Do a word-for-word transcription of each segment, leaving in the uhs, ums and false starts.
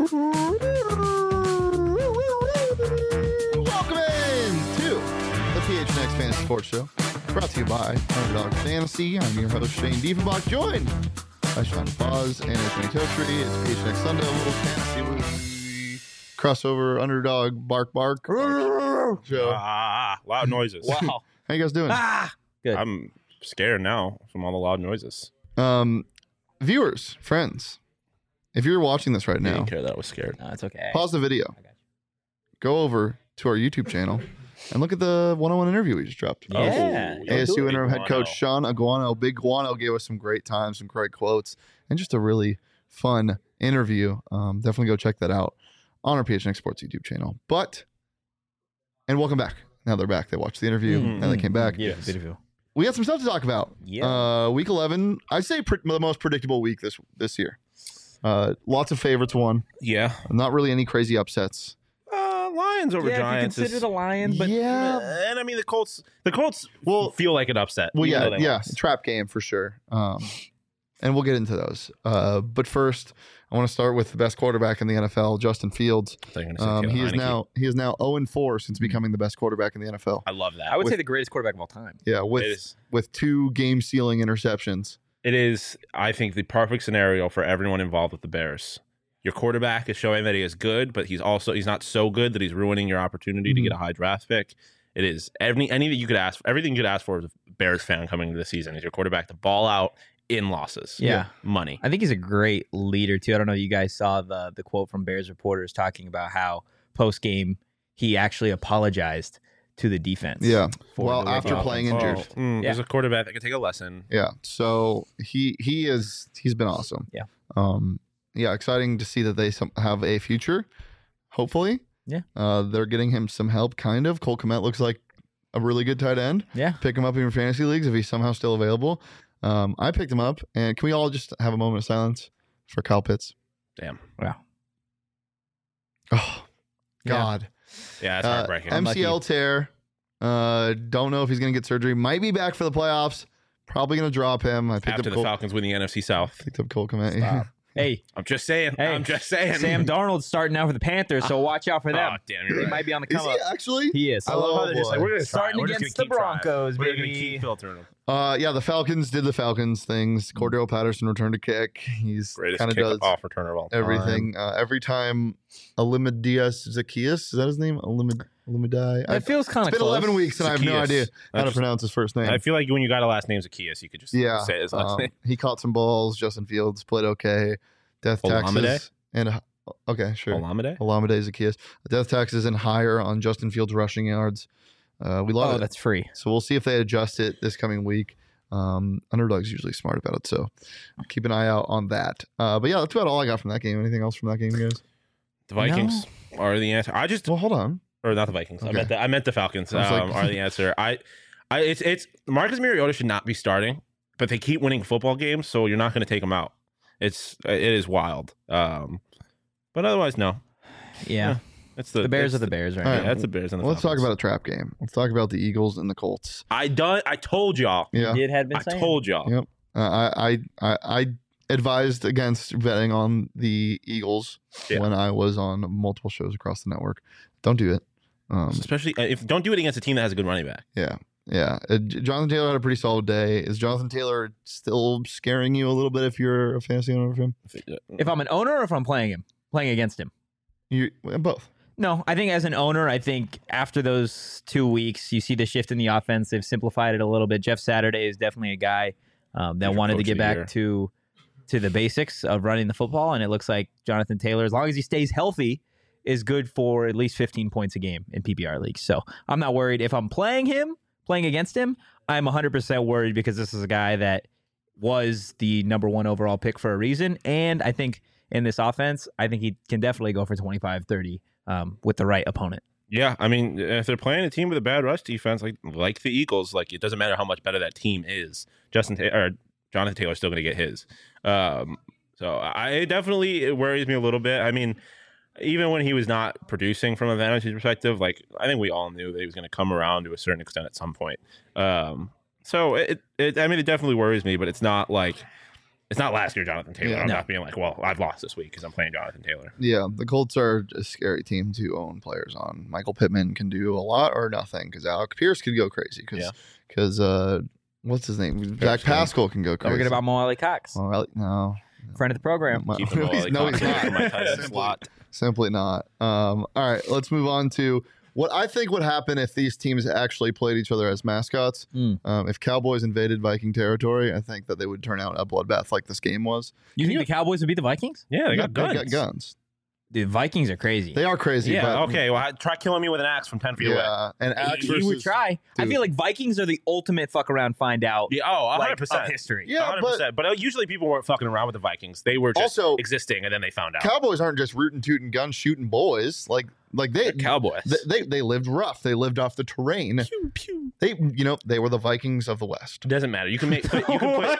in to the P H N X Fantasy Sports Show, brought to you by Underdog Fantasy. I'm your host, Shane Diefenbach, joined by Sean Foz and Anthony Totri. It's P H N X Sunday, a little fantasy week. Crossover, Underdog, Bark Bark. Show. Ah, loud noises. Wow. How you guys doing? Ah, good. I'm scared now from all the loud noises. Um, viewers, friends, if you're watching this right I now, didn't care that I was scared. No, it's okay. pause the video, I got go over to our YouTube channel, and look at the one-on-one interview we just dropped. you. Yeah. Oh, A S U Big interim head coach Guano. Sean Aguano. Big Guano gave us some great times, some great quotes, and just a really fun interview. Um, definitely go check that out on our P H N X Sports YouTube channel. But, and welcome back. Now they're back. They watched the interview, Mhm. and they came back. Yeah, beautiful. We had some stuff to talk about. Yeah. Uh, week eleven, I'd say pre- the most predictable week this this year. Uh, lots of favorites won. Yeah. Not really any crazy upsets. Uh, Lions over yeah, if you Giants. consider is, the Lions, but Yeah. Uh, and I mean the Colts. The Colts Well- feel like an upset. Well, even yeah, though they yeah, lost. trap game for sure. Um, and we'll get into those. Uh, but first, I want to start with the best quarterback in the N F L, Justin Fields. I thought you were gonna say Um, Taylor he is Heineke. now he is now zero and four since becoming the best quarterback in the N F L. I love that. I would with- say the greatest quarterback of all time. Yeah, it with is. with two game sealing interceptions. It is. I think the perfect scenario for everyone involved with the Bears. Your quarterback is showing that he is good, but he's also he's not so good that he's ruining your opportunity to Mhm. get a high draft pick. It is any anything you could ask, everything you could ask for as a Bears fan coming into the season is your quarterback to ball out in losses. Yeah. money. I think he's a great leader too. I don't know if you guys saw the the quote from Bears reporters talking about how post game he actually apologized to the defense. Yeah. for Well, the way after they- playing Oh, injured. mm, Yeah. There's a quarterback that can take a lesson. Yeah. So he he is he's been awesome. Yeah. Um. Yeah. Exciting to see that they some, have a future. Hopefully. Yeah. Uh, they're getting him some help. Kind of. Cole Kmet looks like a really good tight end. Yeah. Pick him up in your fantasy leagues if he's somehow still available. Um, I picked him up, and can we all just have a moment of silence for Kyle Pitts? Damn. Wow. Oh, Yeah. God. Yeah, that's Uh, heartbreaking. M C L tear. Uh, don't know if he's going to get surgery. Might be back for the playoffs. Probably going to drop him. I picked After up the Cole, Falcons win the N F C South. picked up Cole Kmet. Stop. Hey, I'm just saying. Hey, I'm just saying. Sam Darnold's starting out for the Panthers, so watch out for them. Oh, damn, He you're right. might be on the Is come he up. actually? He is. I love how they're just like, boy. we're going to Starting against the Broncos, We're going to baby. keep filtering them. Uh, yeah, the Falcons did the Falcons things. Cordero Patterson returned a kick. He's Greatest kind of kick does off returner of all time. everything. Uh, every time Alimidias Zacchaeus, is that his name? Alimid Alimidai. It feels kind It's of been close. eleven weeks and I have no Zacchaeus. idea how I to just- pronounce his first name. I feel like when you got a last name Zacchaeus, you could just Yeah, say his last um, name. he caught some balls. Justin Fields played okay. Death Olamide? taxes and okay, sure. Olamide? Olamide Zacchaeus. Death taxes and higher on Justin Fields rushing yards. Uh, we love Oh, it. that's free. So we'll see if they adjust it this coming week. Um, Underdog's usually smart about it, so keep an eye out on that. Uh, but yeah, that's about all I got from that game. Anything else from that game, you guys? The Vikings are the answer. I just Well, hold on. or not the Vikings. I Okay. meant the, I meant the Falcons I was um, like- are the answer. I, I it's it's Marcus Mariota should not be starting, but they keep winning football games, so you're not going to take him out. It's it is wild. Um, but otherwise, no. Yeah. It's the The Bears it's are the Bears right All Yeah, right. now. that's the Bears and the Well, let's talk Falcons. about a trap game. Let's talk about the Eagles and the Colts. I done. I told y'all. Yeah. Did had been I saying. told y'all. Yep. Uh, I, I I I advised against betting on the Eagles Yeah. when I was on multiple shows across the network. Don't do it. Um, Especially uh, if don't do it against a team that has a good running back. yeah. Yeah. Uh, J- Jonathan Taylor had a pretty solid day. Is Jonathan Taylor still scaring you a little bit if you're a fantasy owner of him? If I'm an owner or if I'm playing him, playing against him. You both. No, I think as an owner, I think after those two weeks, you see the shift in the offense. They've simplified it a little bit. Jeff Saturday is definitely a guy um, that He's your wanted to coach get of the back year. to to the basics of running the football, and it looks like Jonathan Taylor, as long as he stays healthy, is good for at least fifteen points a game in P P R leagues. So I'm not worried. If I'm playing him, playing against him, I'm one hundred percent worried because this is a guy that was the number one overall pick for a reason, and I think in this offense, I think he can definitely go for twenty-five, thirty um, with the right opponent. Yeah, I mean, if they're playing a team with a bad rush defense, like like the Eagles, like it doesn't matter how much better that team is. Justin Ta- or Jonathan Taylor's still going to get his. Um, so I it definitely it worries me a little bit. I mean, even when he was not producing from a fantasy perspective, like I think we all knew that he was going to come around to a certain extent at some point. Um, so it, it, I mean, it definitely worries me, but it's not like It's not last year, Jonathan Taylor. Yeah. I'm No. not being like, well, I've lost this week because I'm playing Jonathan Taylor. Yeah, the Colts are a scary team to own players on. Michael Pittman can do a lot or nothing because Alec Pierce could go crazy because Yeah. because uh, what's his name? Zach Pascal can go Don't crazy. forget about Mo Ali Cox, Well, I- no, friend of the program. no, Keep him no, all he's, like no, he's constantly for my not. tight end Simply- slot. Simply not. Um, all right, let's move on to what I think would happen if these teams actually played each other as mascots. Mm. Um, if Cowboys invaded Viking territory, I think that they would turn out a bloodbath like this game was. You Can think you- the Cowboys would beat the Vikings? Yeah, they got guns. They got guns. Dude, Vikings are crazy. They are crazy. Yeah, but, okay. Well, try killing me with an axe from ten feet away. Yeah, and axe you would versus- try. I dude. feel like Vikings are the ultimate fuck around, find out Yeah, oh, one like, hundred percent. of history. Yeah, one hundred but percent. But uh, usually people weren't fucking around with the Vikings. They were just Also- existing, and then they found out. Cowboys aren't just rootin' tootin' gun shooting boys. Like like they They're Cowboys. they, they they lived rough. They lived off the terrain. pew, pew. They you know they were the Vikings of the West. It doesn't matter. You can make. You can put. What?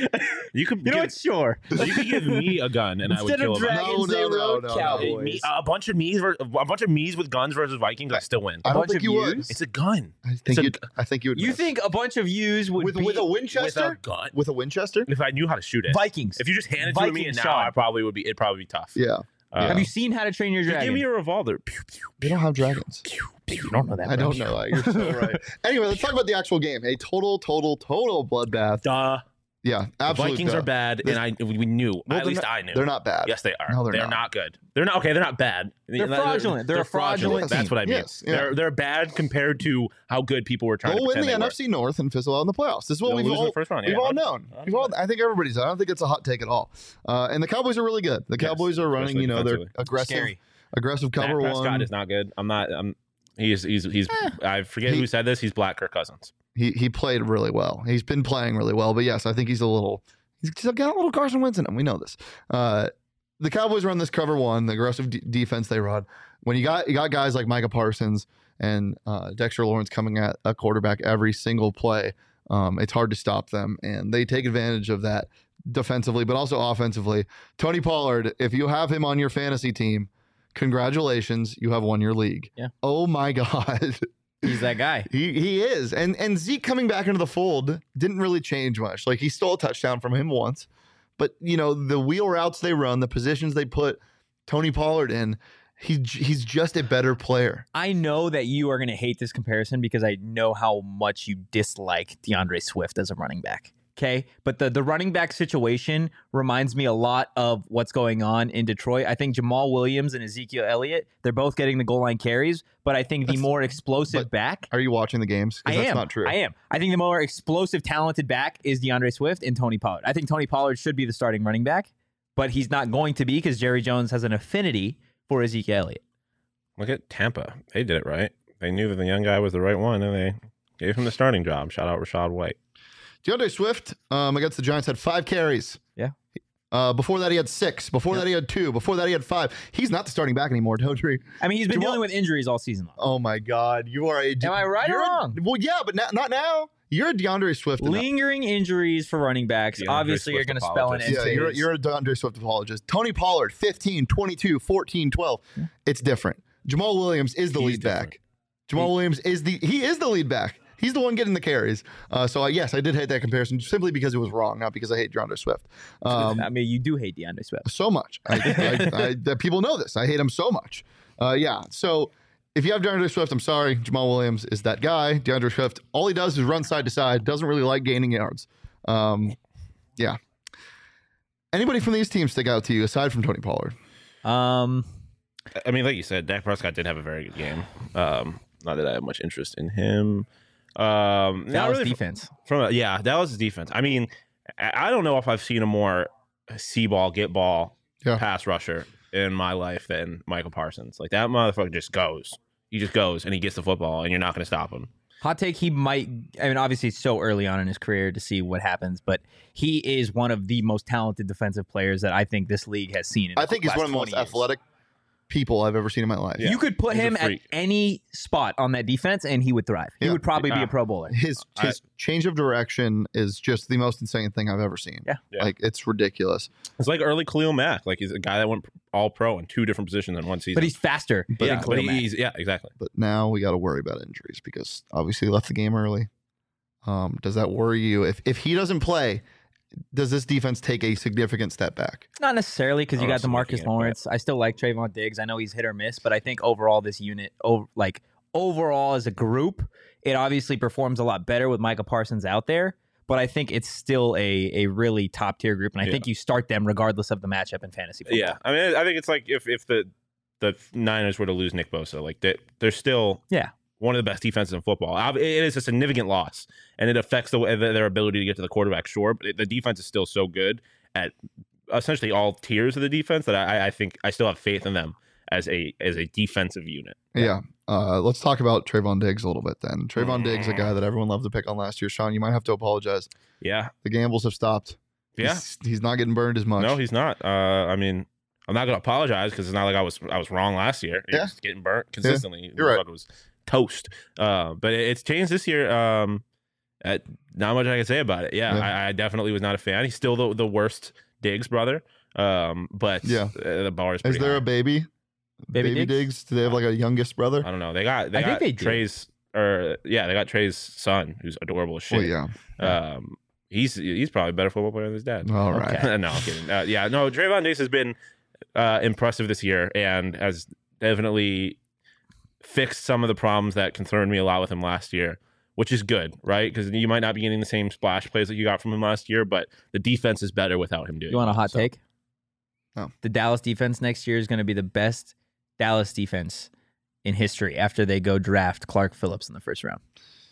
You could. You know give, what? Sure. you could give me a gun, and I would Instead kill of a Viking. dragons, No, they no, no, wrote no, no. Cowboys. Me- a bunch of me's, ver- a bunch of me's with guns versus Vikings. I still win. I don't bunch think of you would. yous? It's a gun I It's think a- you I think you would. You miss. think a bunch of yous would with beat with a with Winchester? a gun. With a Winchester? If I knew how to shoot it, Vikings? if you just handed it to me Vikings, and now, Sean. I probably would be. It'd probably be tough. Yeah. Uh, Have you seen How to Train Your just Dragon? give me a revolver. Pew, pew, They don't have dragons. pew, pew. You don't know that. I bro. don't know that. You're so right. Anyway, let's talk about the actual game. A total, total, total bloodbath. Duh. Yeah, The absolutely. Vikings are bad, and I we we knew. Well, At they're least not- I knew. They're not bad. Yes, they are. No, they're they're not. not. good. They're not okay. They're not bad. They're fraudulent. They're a fraudulent That's team. what I mean. Yes, yeah. They're they're bad compared to how good people were trying They'll to win pretend the they N were. F C North and fizzle out in the playoffs. This is what They'll we've lose in all, the first round. we've Yeah, all one known. hundred We've all, I think everybody's. I don't think it's a hot take at all. Uh, and the Cowboys are really good. The Yes, Cowboys are running. especially You know, they're defensively. aggressive, Scary. aggressive Dak cover Prescott one. is not good. I'm not. I'm. He's he's he's. I forget He- who said this. He's Black Kirk Cousins. He he played really well. He's been playing really well. But yes, I think he's a little. He's got a little Carson Wentz in him. We know this. Uh, the Cowboys run this cover one, the aggressive d- defense they run. When you got you got guys like Micah Parsons and uh, Dexter Lawrence coming at a quarterback every single play, um, it's hard to stop them, and they take advantage of that defensively, but also offensively. Tony Pollard, if you have him on your fantasy team, congratulations, you have won your league. Yeah. Oh my God. He's that guy. He he is. And and Zeke coming back into the fold didn't really change much. Like he stole a touchdown from him once. But you know, the wheel routes they run, the positions they put Tony Pollard in, he he's just a better player. I know that you are going to hate this comparison because I know how much you dislike DeAndre Swift as a running back. Okay. But the, the running back situation reminds me a lot of what's going on in Detroit. I think Jamal Williams and Ezekiel Elliott, they're both getting the goal line carries, but I think the That's- more explosive but back. Are you watching the games? 'Cause I that's am. not true. I am. I think the more explosive, talented back is DeAndre Swift and Tony Pollard. I think Tony Pollard should be the starting running back, but he's not going to be because Jerry Jones has an affinity for Ezekiel Elliott. Look at Tampa. They did it right. They knew that the young guy was the right one, and they gave him the starting job. Shout out Rashad White. DeAndre Swift um, against the Giants had five carries. Yeah. Uh, before that, he had six. Before Yep. that, he had two. Before that, he had five. He's not the starting back anymore, Totri. I mean, he's been Jamal- dealing with injuries all season long. Oh my God, you are a. Am I right or you're a- wrong? well, yeah, but not, not now. You're a DeAndre Swift. enough. Lingering injuries for running backs. DeAndre Obviously, you're Swift going to spell an apologist. end Yeah, to you're, his- you're a DeAndre Swift apologist. Tony Pollard, fifteen, twenty-two, fourteen, twelve. It's different. Jamal Williams is the He's lead different. back. Jamal Williams is the he is the lead back. He's the one getting the carries. Uh, so, uh, yes, I did hate that comparison simply because it was wrong, not because I hate DeAndre Swift. Um, I mean, you do hate DeAndre Swift. so much. I, I, I, that people know this. I hate him so much. Uh, yeah. So if you have DeAndre Swift, I'm sorry. Jamal Williams is that guy. DeAndre Swift, all he does is run side to side. Doesn't really like gaining yards. Um, yeah. Anybody from these teams stick out to you aside from Tony Pollard? Um, I mean, like you said, Dak Prescott did have a very good game. Um, not that I have much interest in him. Um, not Dallas really defense. From, from yeah, Dallas defense. I mean, I I don't know if I've seen a more see ball, get ball, Yeah. pass rusher in my life than Michael Parsons. Like that motherfucker just goes. He just goes and he gets the football, and you're not going to stop him. Hot take, he might, I mean, obviously it's so early on in his career to see what happens, but he is one of the most talented defensive players that I think this league has seen. In I think he's last one of the most twenty years. athletic people I've ever seen in my life. Yeah. You could put He's a him at freak. any spot on that defense and he would thrive. He Yeah. would probably be Yeah. a Pro Bowler. His I- his change of direction is just the most insane thing I've ever seen. Yeah. Yeah. Like it's ridiculous. It's like early Khalil Mack. Like he's a guy that went all pro in two different positions in one season. But he's faster But- yeah, than but Khalil Mack. he's yeah, exactly. But now we got to worry about injuries because obviously he left the game early. Um, does that worry you? If if he doesn't play, does this defense take a significant step back? Not necessarily, because you Oh, got the Marcus significant, Lawrence. I still like Trayvon Diggs. I know he's hit or miss, but I think overall this unit, over, like overall as a group, it obviously performs a lot better with Micah Parsons out there. But I think it's still a a really top tier group, and I Yeah. think you start them regardless of the matchup in fantasy football. Yeah, I mean, I think it's like if if the the Niners were to lose Nick Bosa, like they, they're still Yeah. one of the best defenses in football. Ob- It is a significant loss, and it affects the, their ability to get to the quarterback. Sure, but it, the defense is still so good at essentially all tiers of the defense that I, I think I still have faith in them as a as a defensive unit. Yeah. Uh, let's talk about Trayvon Diggs a little bit then. Trayvon Diggs, a guy that everyone loved to pick on last year. Sean, you might have to apologize. Yeah, The gambles have stopped. yeah. He's, he's not getting burned as much. No, he's not. Uh, I mean, I'm not gonna apologize because it's not like I was I was wrong last year. He Yeah. was getting burnt consistently. You're right. It was toast. Uh, but it, it's changed this year. Um, at, not much I can say about it. Yeah, Yeah. I, I definitely was not a fan. He's still the, the worst Diggs brother. Um, but Yeah. uh, the bar is Is pretty there high. a baby? Baby Diggs? Diggs? Do they have like a youngest brother? I don't know. They got they I think got they do. Trey's or yeah, they got Trey's son who's adorable as shit. Well, yeah. Um, he's he's probably a better football player than his dad. All right. Okay. no, I'm kidding. Uh, yeah, no, Trayvon Diggs has been uh, impressive this year and has definitely fixed some of the problems that concerned me a lot with him last year, which is good, right? Because you might not be getting the same splash plays that you got from him last year, but the defense is better without him doing You want a it. hot So, take? No. The Dallas defense next year is going to be the best Dallas defense in history after they go draft Clark Phillips in the first round.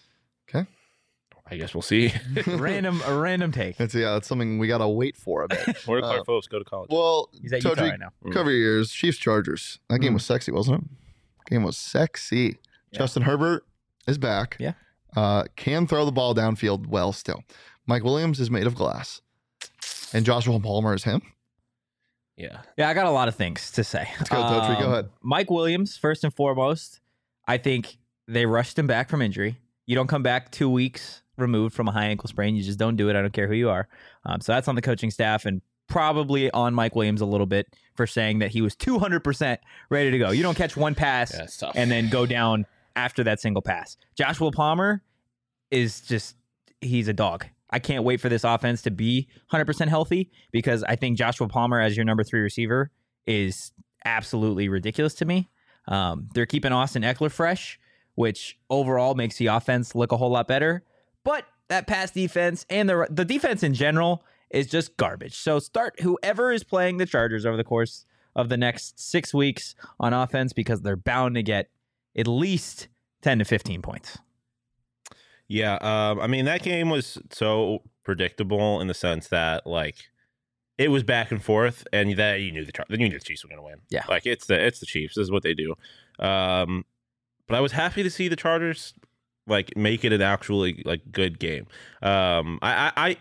I guess we'll see. random, a random take. That's yeah. That's something we gotta wait for a bit. Where did Clark Uh, Phillips go to college? Well, He's at Utah Todrick, right now. Mm. cover your ears. Chiefs Chargers. That game Mm. was sexy, wasn't it? Game was sexy. Yeah. Justin Herbert is back. Yeah. Uh, can throw the ball downfield well still. Mike Williams is made of glass. And Joshua Palmer is him. yeah. Yeah, I got a lot of things to say. Let's go, Totri. Go Um, ahead. Mike Williams, first and foremost, I think they rushed him back from injury. You don't come back two weeks removed from a high ankle sprain. You just don't do it. I don't care who you are. Um, so that's on the coaching staff and probably on Mike Williams a little bit for saying that he was two hundred percent ready to go. You don't catch one pass Yeah, it's tough. and then go down after that single pass. Joshua Palmer is just, he's a dog. I can't wait for this offense to be one hundred percent healthy because I think Joshua Palmer as your number three receiver is absolutely ridiculous to me. Um, they're keeping Austin Eckler fresh, which overall makes the offense look a whole lot better. But that pass defense and the the defense in general is just garbage. So start whoever is playing the Chargers over the course of the next six weeks on offense because they're bound to get at least ten to fifteen points. Yeah, um, I mean that game was so predictable in the sense that like it was back and forth, and that you knew the Char- you knew the Chiefs were going to win. Yeah. like it's the it's the Chiefs. This is what they do. Um, but I was happy to see the Chargers like make it an actually like good game. Um, I, I,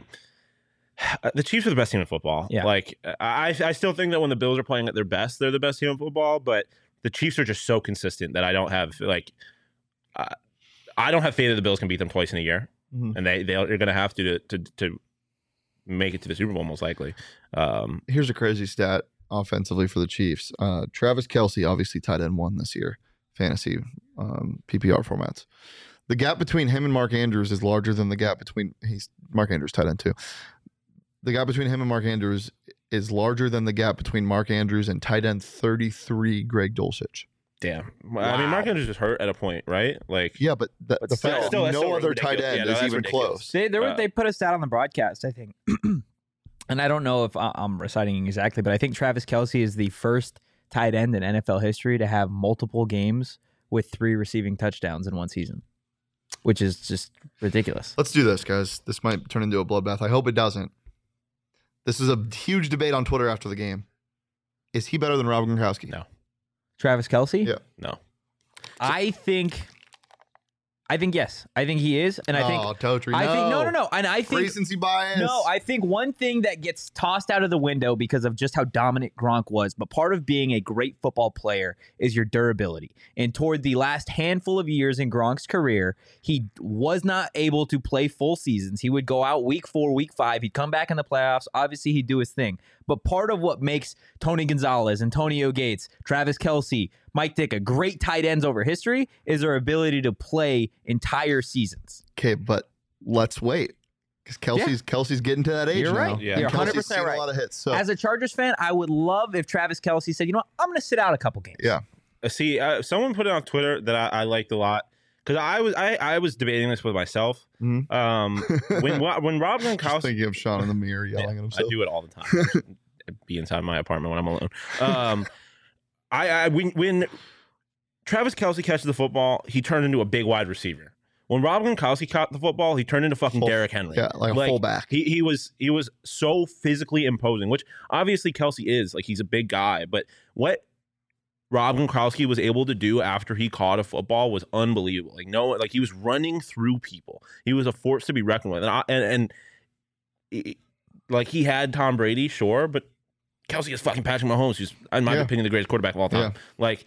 I the Chiefs are the best team in football. Yeah. Like I I still think that when the Bills are playing at their best, they're the best team in football. But the Chiefs are just so consistent that I don't have like. Uh, I don't have faith that the Bills can beat them twice in a year, Mhm. and they they're going to have to to to make it to the Super Bowl most likely. Um, Here's a crazy stat offensively for the Chiefs. Uh, Travis Kelce, obviously tight end one this year, fantasy um, P P R formats. The gap between him and Mark Andrews is larger than the gap between he's Mark Andrews tight end too. The gap between him and Mark Andrews is larger than the gap between Mark Andrews and tight end thirty-three Greg Dulcich. damn, I mean, Mark Andrews just hurt at a point, right? Like, Yeah, but the, But the still- fact still- that that's no still other ridiculous. tight end Yeah, no, is that's even ridiculous. close. They they, were, Uh, they put a stat on the broadcast, I think, and I don't know if I- I'm reciting exactly, but I think Travis Kelce is the first tight end in N F L history to have multiple games with three receiving touchdowns in one season, which is just ridiculous. Let's do this, guys. This might turn into a bloodbath. I hope it doesn't. This is a huge debate on Twitter after the game. Is he better than Rob Gronkowski? No. Travis Kelce? Yeah. no, I think, I think yes. I think he is, and I think oh, Totri, I think no, no, no, and I think Recency bias. no. I think one thing that gets tossed out of the window because of just how dominant Gronk was, but part of being a great football player is your durability. And toward the last handful of years in Gronk's career, he was not able to play full seasons. He would go out week four, week five. He'd come back in the playoffs. Obviously, he'd do his thing. But part of what makes Tony Gonzalez, Antonio Gates, Travis Kelce, Mike Ditka great tight ends over history is their ability to play entire seasons. Okay, but let's wait. Because Kelsey's Kelsey's getting to that age You're now. right. Yeah. And You're Kelsey's one hundred percent seen right. a lot of hits. So As a Chargers fan, I would love if Travis Kelce said, you know what, I'm going to sit out a couple games. yeah, Uh, see, uh, someone put it on Twitter that I, I liked a lot because I was I, I was debating this with myself. Mhm. Um, when when Rob just Gronkowski, thinking of Sean in the mirror yelling at I himself. do it all the time. Be inside my apartment when I'm alone. Um, I, I when when Travis Kelce catches the football, he turned into a big wide receiver. When Rob Gronkowski caught the football, he turned into fucking Full- Derrick Henry. Yeah, like a fullback. He he was he was so physically imposing, which obviously Kelce is. Like he's a big guy, but what Rob Gronkowski was able to do after he caught a football was unbelievable. Like no, like he was running through people. He was a force to be reckoned with, and I, and, and he- like he had Tom Brady, sure, but Kelce is fucking Patrick Mahomes, who's in my Yeah. opinion the greatest quarterback of all time. Like.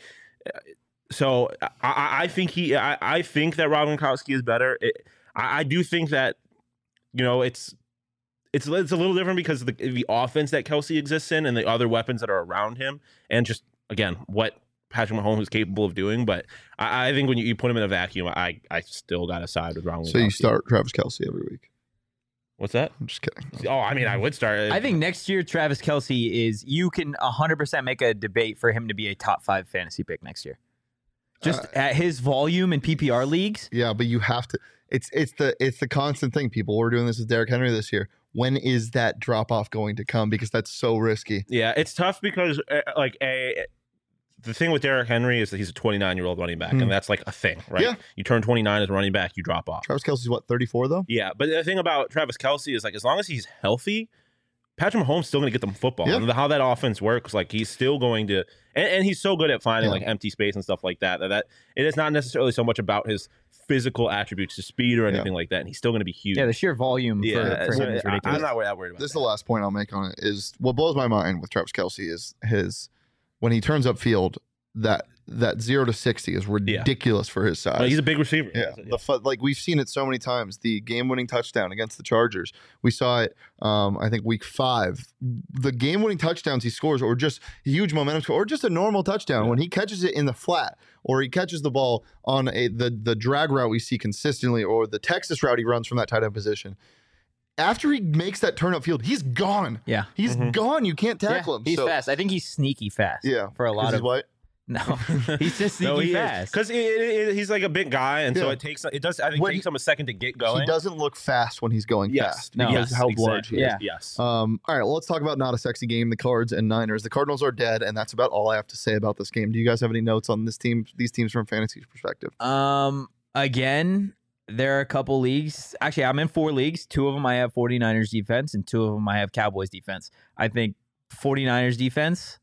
So I, I think he, I, I think that Rob Gronkowski is better. It, I, I do think that, you know, it's it's it's a little different because of the the offense that Kelce exists in and the other weapons that are around him, and just again what Patrick Mahomes is capable of doing. But I, I think when you, you put him in a vacuum, I I still got to side with Rob Gronkowski. So you start Travis Kelce every week. What's that? I'm just kidding. Oh, I mean, I would start. I think next year, Travis Kelce is, you can one hundred percent make a debate for him to be a top five fantasy pick next year. Just Uh, at his volume in P P R leagues. Yeah, but you have to. It's it's the it's the constant thing. People were doing this with Derrick Henry this year. When is that drop off going to come? Because that's so risky. Yeah, it's tough because uh, like a the thing with Derrick Henry is that he's a twenty-nine year old running back, Hmm. and that's like a thing, right? Yeah. You turn twenty-nine as a running back, you drop off. Travis Kelce's what, thirty-four though? Yeah, but the thing about Travis Kelce is like as long as he's healthy, Patrick Mahomes still going to get them football. Yeah. And how that offense works, like he's still going to, and, and he's so good at finding Yeah. like empty space and stuff like that, that. That it is not necessarily so much about his physical attributes, his speed or anything like that, and he's still going to be huge. Yeah, the sheer volume Yeah, for, for so him is I- ridiculous. I'm not that worried about This is that. the last point I'll make on it. Is what blows my mind with Travis Kelce is his when he turns upfield, that that zero to sixty is ridiculous for his size. No, he's a big receiver. Yeah, the fu- like we've seen it so many times. The game-winning touchdown against the Chargers, we saw it. Um, I think week five, the game-winning touchdowns he scores, or just huge momentum score, or just a normal touchdown when he catches it in the flat, or he catches the ball on a the the drag route we see consistently, or the Texas route he runs from that tight end position. After he makes that turn upfield, he's gone. Yeah. He's Mhm. gone. You can't Yeah, tackle him. he's So- fast. I think he's sneaky fast. Yeah, For a 'cause lot he's of. white. No, he's just sneaky fast. because he's like a big guy, and so Yeah. it takes it does. I think When it takes him a second to get going. He doesn't look fast when he's going Yes, fast. No. because yes, how exactly. large he is. Yeah. Yes. Um, all right, well, let's talk about not a sexy game, the Cards and Niners. The Cardinals are dead, and that's about all I have to say about this game. Do you guys have any notes on this team, these teams from fantasy perspective? Um, again, there are a couple leagues. Actually, I'm in four leagues. Two of them I have 49ers defense, and two of them I have Cowboys defense. I think 49ers defense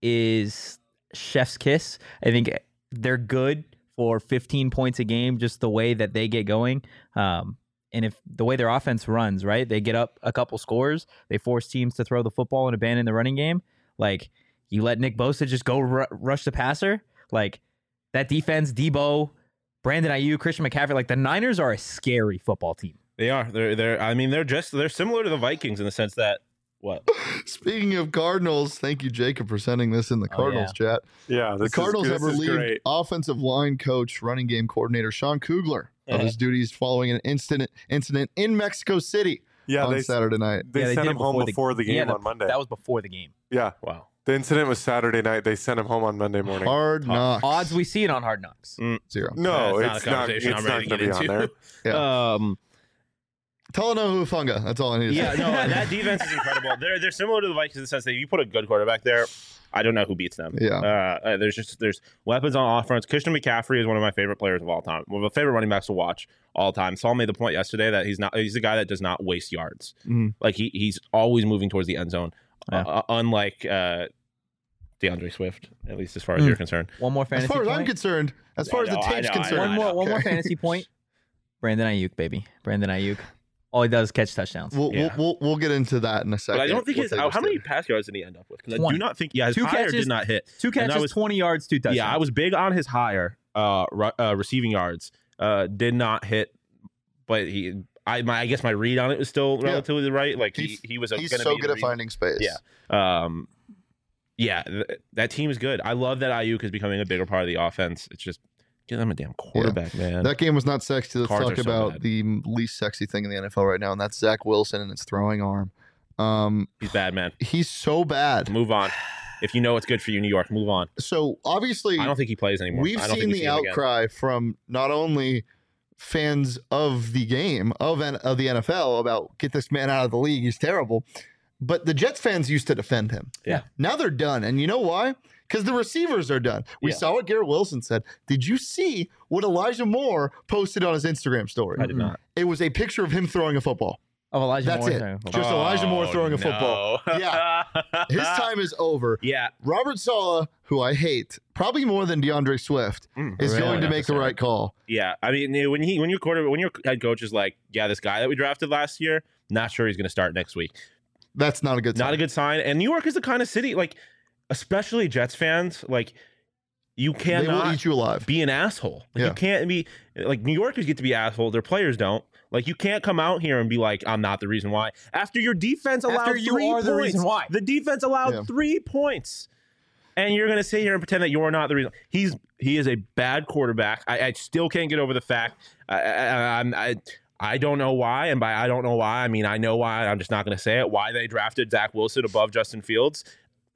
is chef's kiss. I think they're good for fifteen points a game, just the way that they get going. Um, and if the way their offense runs, right, they get up a couple scores, they force teams to throw the football and abandon the running game. Like, you let Nick Bosa just go ru- rush the passer. Like, that defense, Debo, Brandon Ayuk, Christian McCaffrey, like the Niners are a scary football team. They are. They're. They're. I mean, they're just. They're similar to the Vikings in the sense that what? Speaking of Cardinals, thank you, Jacob, for sending this in the Oh, Cardinals chat. Yeah, The this Cardinals is, have this is relieved great. offensive line coach, running game coordinator Sean Kugler of Uh-huh. his duties following an incident incident in Mexico City Yeah, on they Saturday night. they Yeah, they sent did him it home before the- before the game Yeah, the- on Monday. That was before the game. yeah, Wow. the incident was Saturday night. They sent him home on Monday morning. Hard Tough. knocks. Odds we see it on Hard Knocks. Zero. No, That's it's not a not. conversation It's I'm not ready going to to get be on into. there. Yeah. Um. Talanoa Hufanga. That's all I need to Yeah. say. No. That defense is incredible. They're. They're similar to the Vikings in the sense that you put a good quarterback there, I don't know who beats them. Yeah. Uh, uh, there's just there's weapons on offense. Christian McCaffrey is one of my favorite players of all time. One of my favorite running backs to watch all time. Saul made the point yesterday that he's not. He's a guy that does not waste yards. Mhm. Like he he's always moving towards the end zone. Yeah. Uh, unlike uh, DeAndre Swift, at least as far as Mm. you're concerned. One more As fantasy far as point. I'm concerned, as I far as know, the I tape's know, I know, concerned, one I more, know. one more Okay. fantasy point. Brandon Ayuk, baby. Brandon Ayuk. All he does is catch touchdowns. We'll, Yeah. we'll, we'll we'll get into that in a second. But I don't think what his. they How just many did. pass yards did he end up with? Because I twenty. do not think. Yeah, his Two higher catches, did not hit. Two And I catches, was- twenty yards, two touchdowns. Yeah, I was big on his higher uh, ru- uh receiving yards. Uh, did not hit, but he. I my I guess my read on it was still Yeah. relatively right. Like he He's- he was. A, He's gonna so be good the at reason- finding space. Yeah. Um, yeah, th- that team is good. I love that Ayuk is becoming a bigger part of the offense. It's just Get them a damn quarterback, man. That game was not sexy. Let's Cards talk are so about bad. the least sexy thing in the N F L right now, and that's Zach Wilson and his throwing arm. Um, He's bad, man. he's so bad. Move on. If you know what's good for you, New York, move on. So obviously, I don't think he plays anymore. we've I don't seen think we the see him again. outcry from not only fans of the game of N- of the N F L about get this man out of the league. He's terrible. But the Jets fans used to defend him. Yeah. Now they're done, and you know why? Because the receivers are done. We Yeah. saw what Garrett Wilson said. Did you see what Elijah Moore posted on his Instagram story? I did not. It was a picture of him throwing a football. Oh, Elijah That's Moore. it. throwing a Just Elijah Moore Oh, throwing a no. football. Yeah. His time is over. Yeah. Robert Saleh, who I hate, probably more than DeAndre Swift, Mm, is really going to not make the necessarily. right call. Yeah. I mean, when he when your quarter when your head coach is like, yeah, this guy that we drafted last year, not sure he's going to start next week. That's not a good sign. Not a good sign. And New York is the kind of city, like, especially Jets fans, like, you They will cannot eat you alive. be an asshole. Like, Yeah. You can't be like New Yorkers get to be assholes. Their players don't. Like you can't come out here and be like, I'm not the reason why. After your defense allowed After you three are points, the reason why. the defense allowed Yeah. three points, and you're gonna sit here and pretend that you're not the reason. He's he is a bad quarterback. I, I still can't get over the fact. I, I, I'm I. I don't know why, and by I don't know why, I mean I know why. I'm just not going to say it. Why they drafted Zach Wilson above Justin Fields?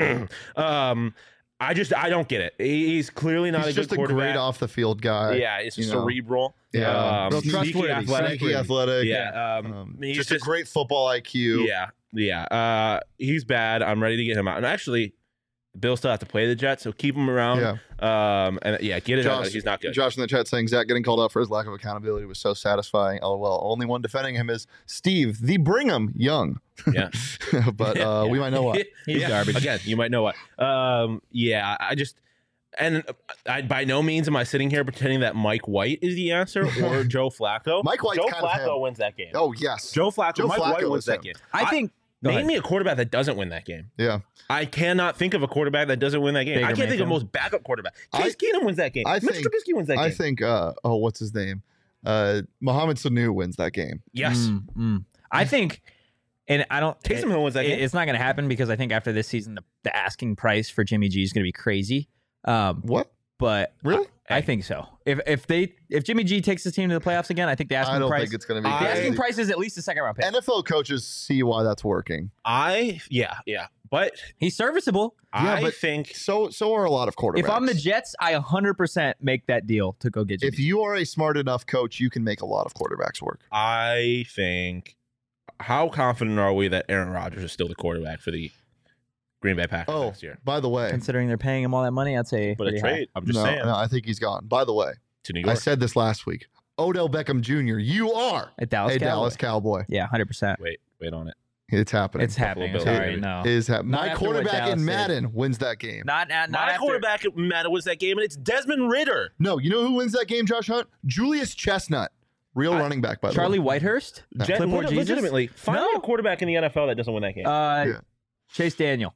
um, I just I don't get it. He's clearly not He's a good just a quarterback. great off the field guy. Yeah, it's just you know. cerebral. Yeah. um, Real sneaky trustworthy, athletic. sneaky athletic. Yeah, um, Um, he's just, just a great football I Q. yeah, yeah. Uh, he's bad. I'm ready to get him out. And actually, the Bills still have to play the Jets, so keep him around. Yeah. Um, and yeah, get it out. Josh, He's not good. Josh in the chat saying Zach getting called out for his lack of accountability was so satisfying. Oh well, only one defending him is Steve, the Brigham Young. Yeah. but uh, we might know why. He's Yeah, garbage. Again, you might know what. Um, yeah, I just and I by no means am I sitting here pretending that Mike White is the answer or Joe Flacco. Mike White's Joe kind of Flacco him. wins that game. Oh yes. Joe Flacco. Joe Mike Flacco White wins is that him. game. I think. Go Name ahead. me a quarterback that doesn't win that game. Yeah. I cannot think of a quarterback that doesn't win that game. Baker I can't think of Mayfield. most backup quarterback. I- Case Keenum wins that game. I Mitch think- Trubisky wins that game. I think uh oh what's his name? Uh Mohamed Sanu wins that game. yes. Mm, mm. I think, and I don't. Taysom Hill wins that it- game. It's not going to happen because I think after this season, the, the asking price for Jimmy G is going to be crazy. Um, What? but Really? I, I think so. If if they if Jimmy G takes his team to the playoffs again, I think the asking I don't price think it's going to be. I- the crazy. asking price is at least a second round pick. N F L coaches see why that's working. I yeah yeah, but He's serviceable. Yeah, I but think So so are a lot of quarterbacks. If I'm the Jets, I one hundred percent make that deal to go get Jimmy. if you are a smart enough coach, you can make a lot of quarterbacks work. I think. How confident are we that Aaron Rodgers is still the quarterback for the Green Bay Packers Oh, next year? by the way, Considering they're paying him all that money, I'd say. But a pretty high. trade. I'm just no, saying no, I think he's gone. By the way, to New I York. said this last week. Odell Beckham Junior, you are A Dallas a Cowboy. Dallas Cowboy. Yeah, one hundred percent. wait, wait on it. It's happening. It's happening. Bills, Sorry, baby. no. It is happening. Not My after what quarterback Dallas in did. Madden wins that game. Not, not, not My after. quarterback Matt wins that game, and it's Desmond Ritter. No, you know who wins that game, Josh Hunt? Julius Chestnut. Real I- running back, by the Charlie way. Whitehurst? Gen- Clipboard leg- Jesus? legitimately, find me No. a quarterback in the N F L that doesn't win that game. Uh, Yeah. Chase Daniel.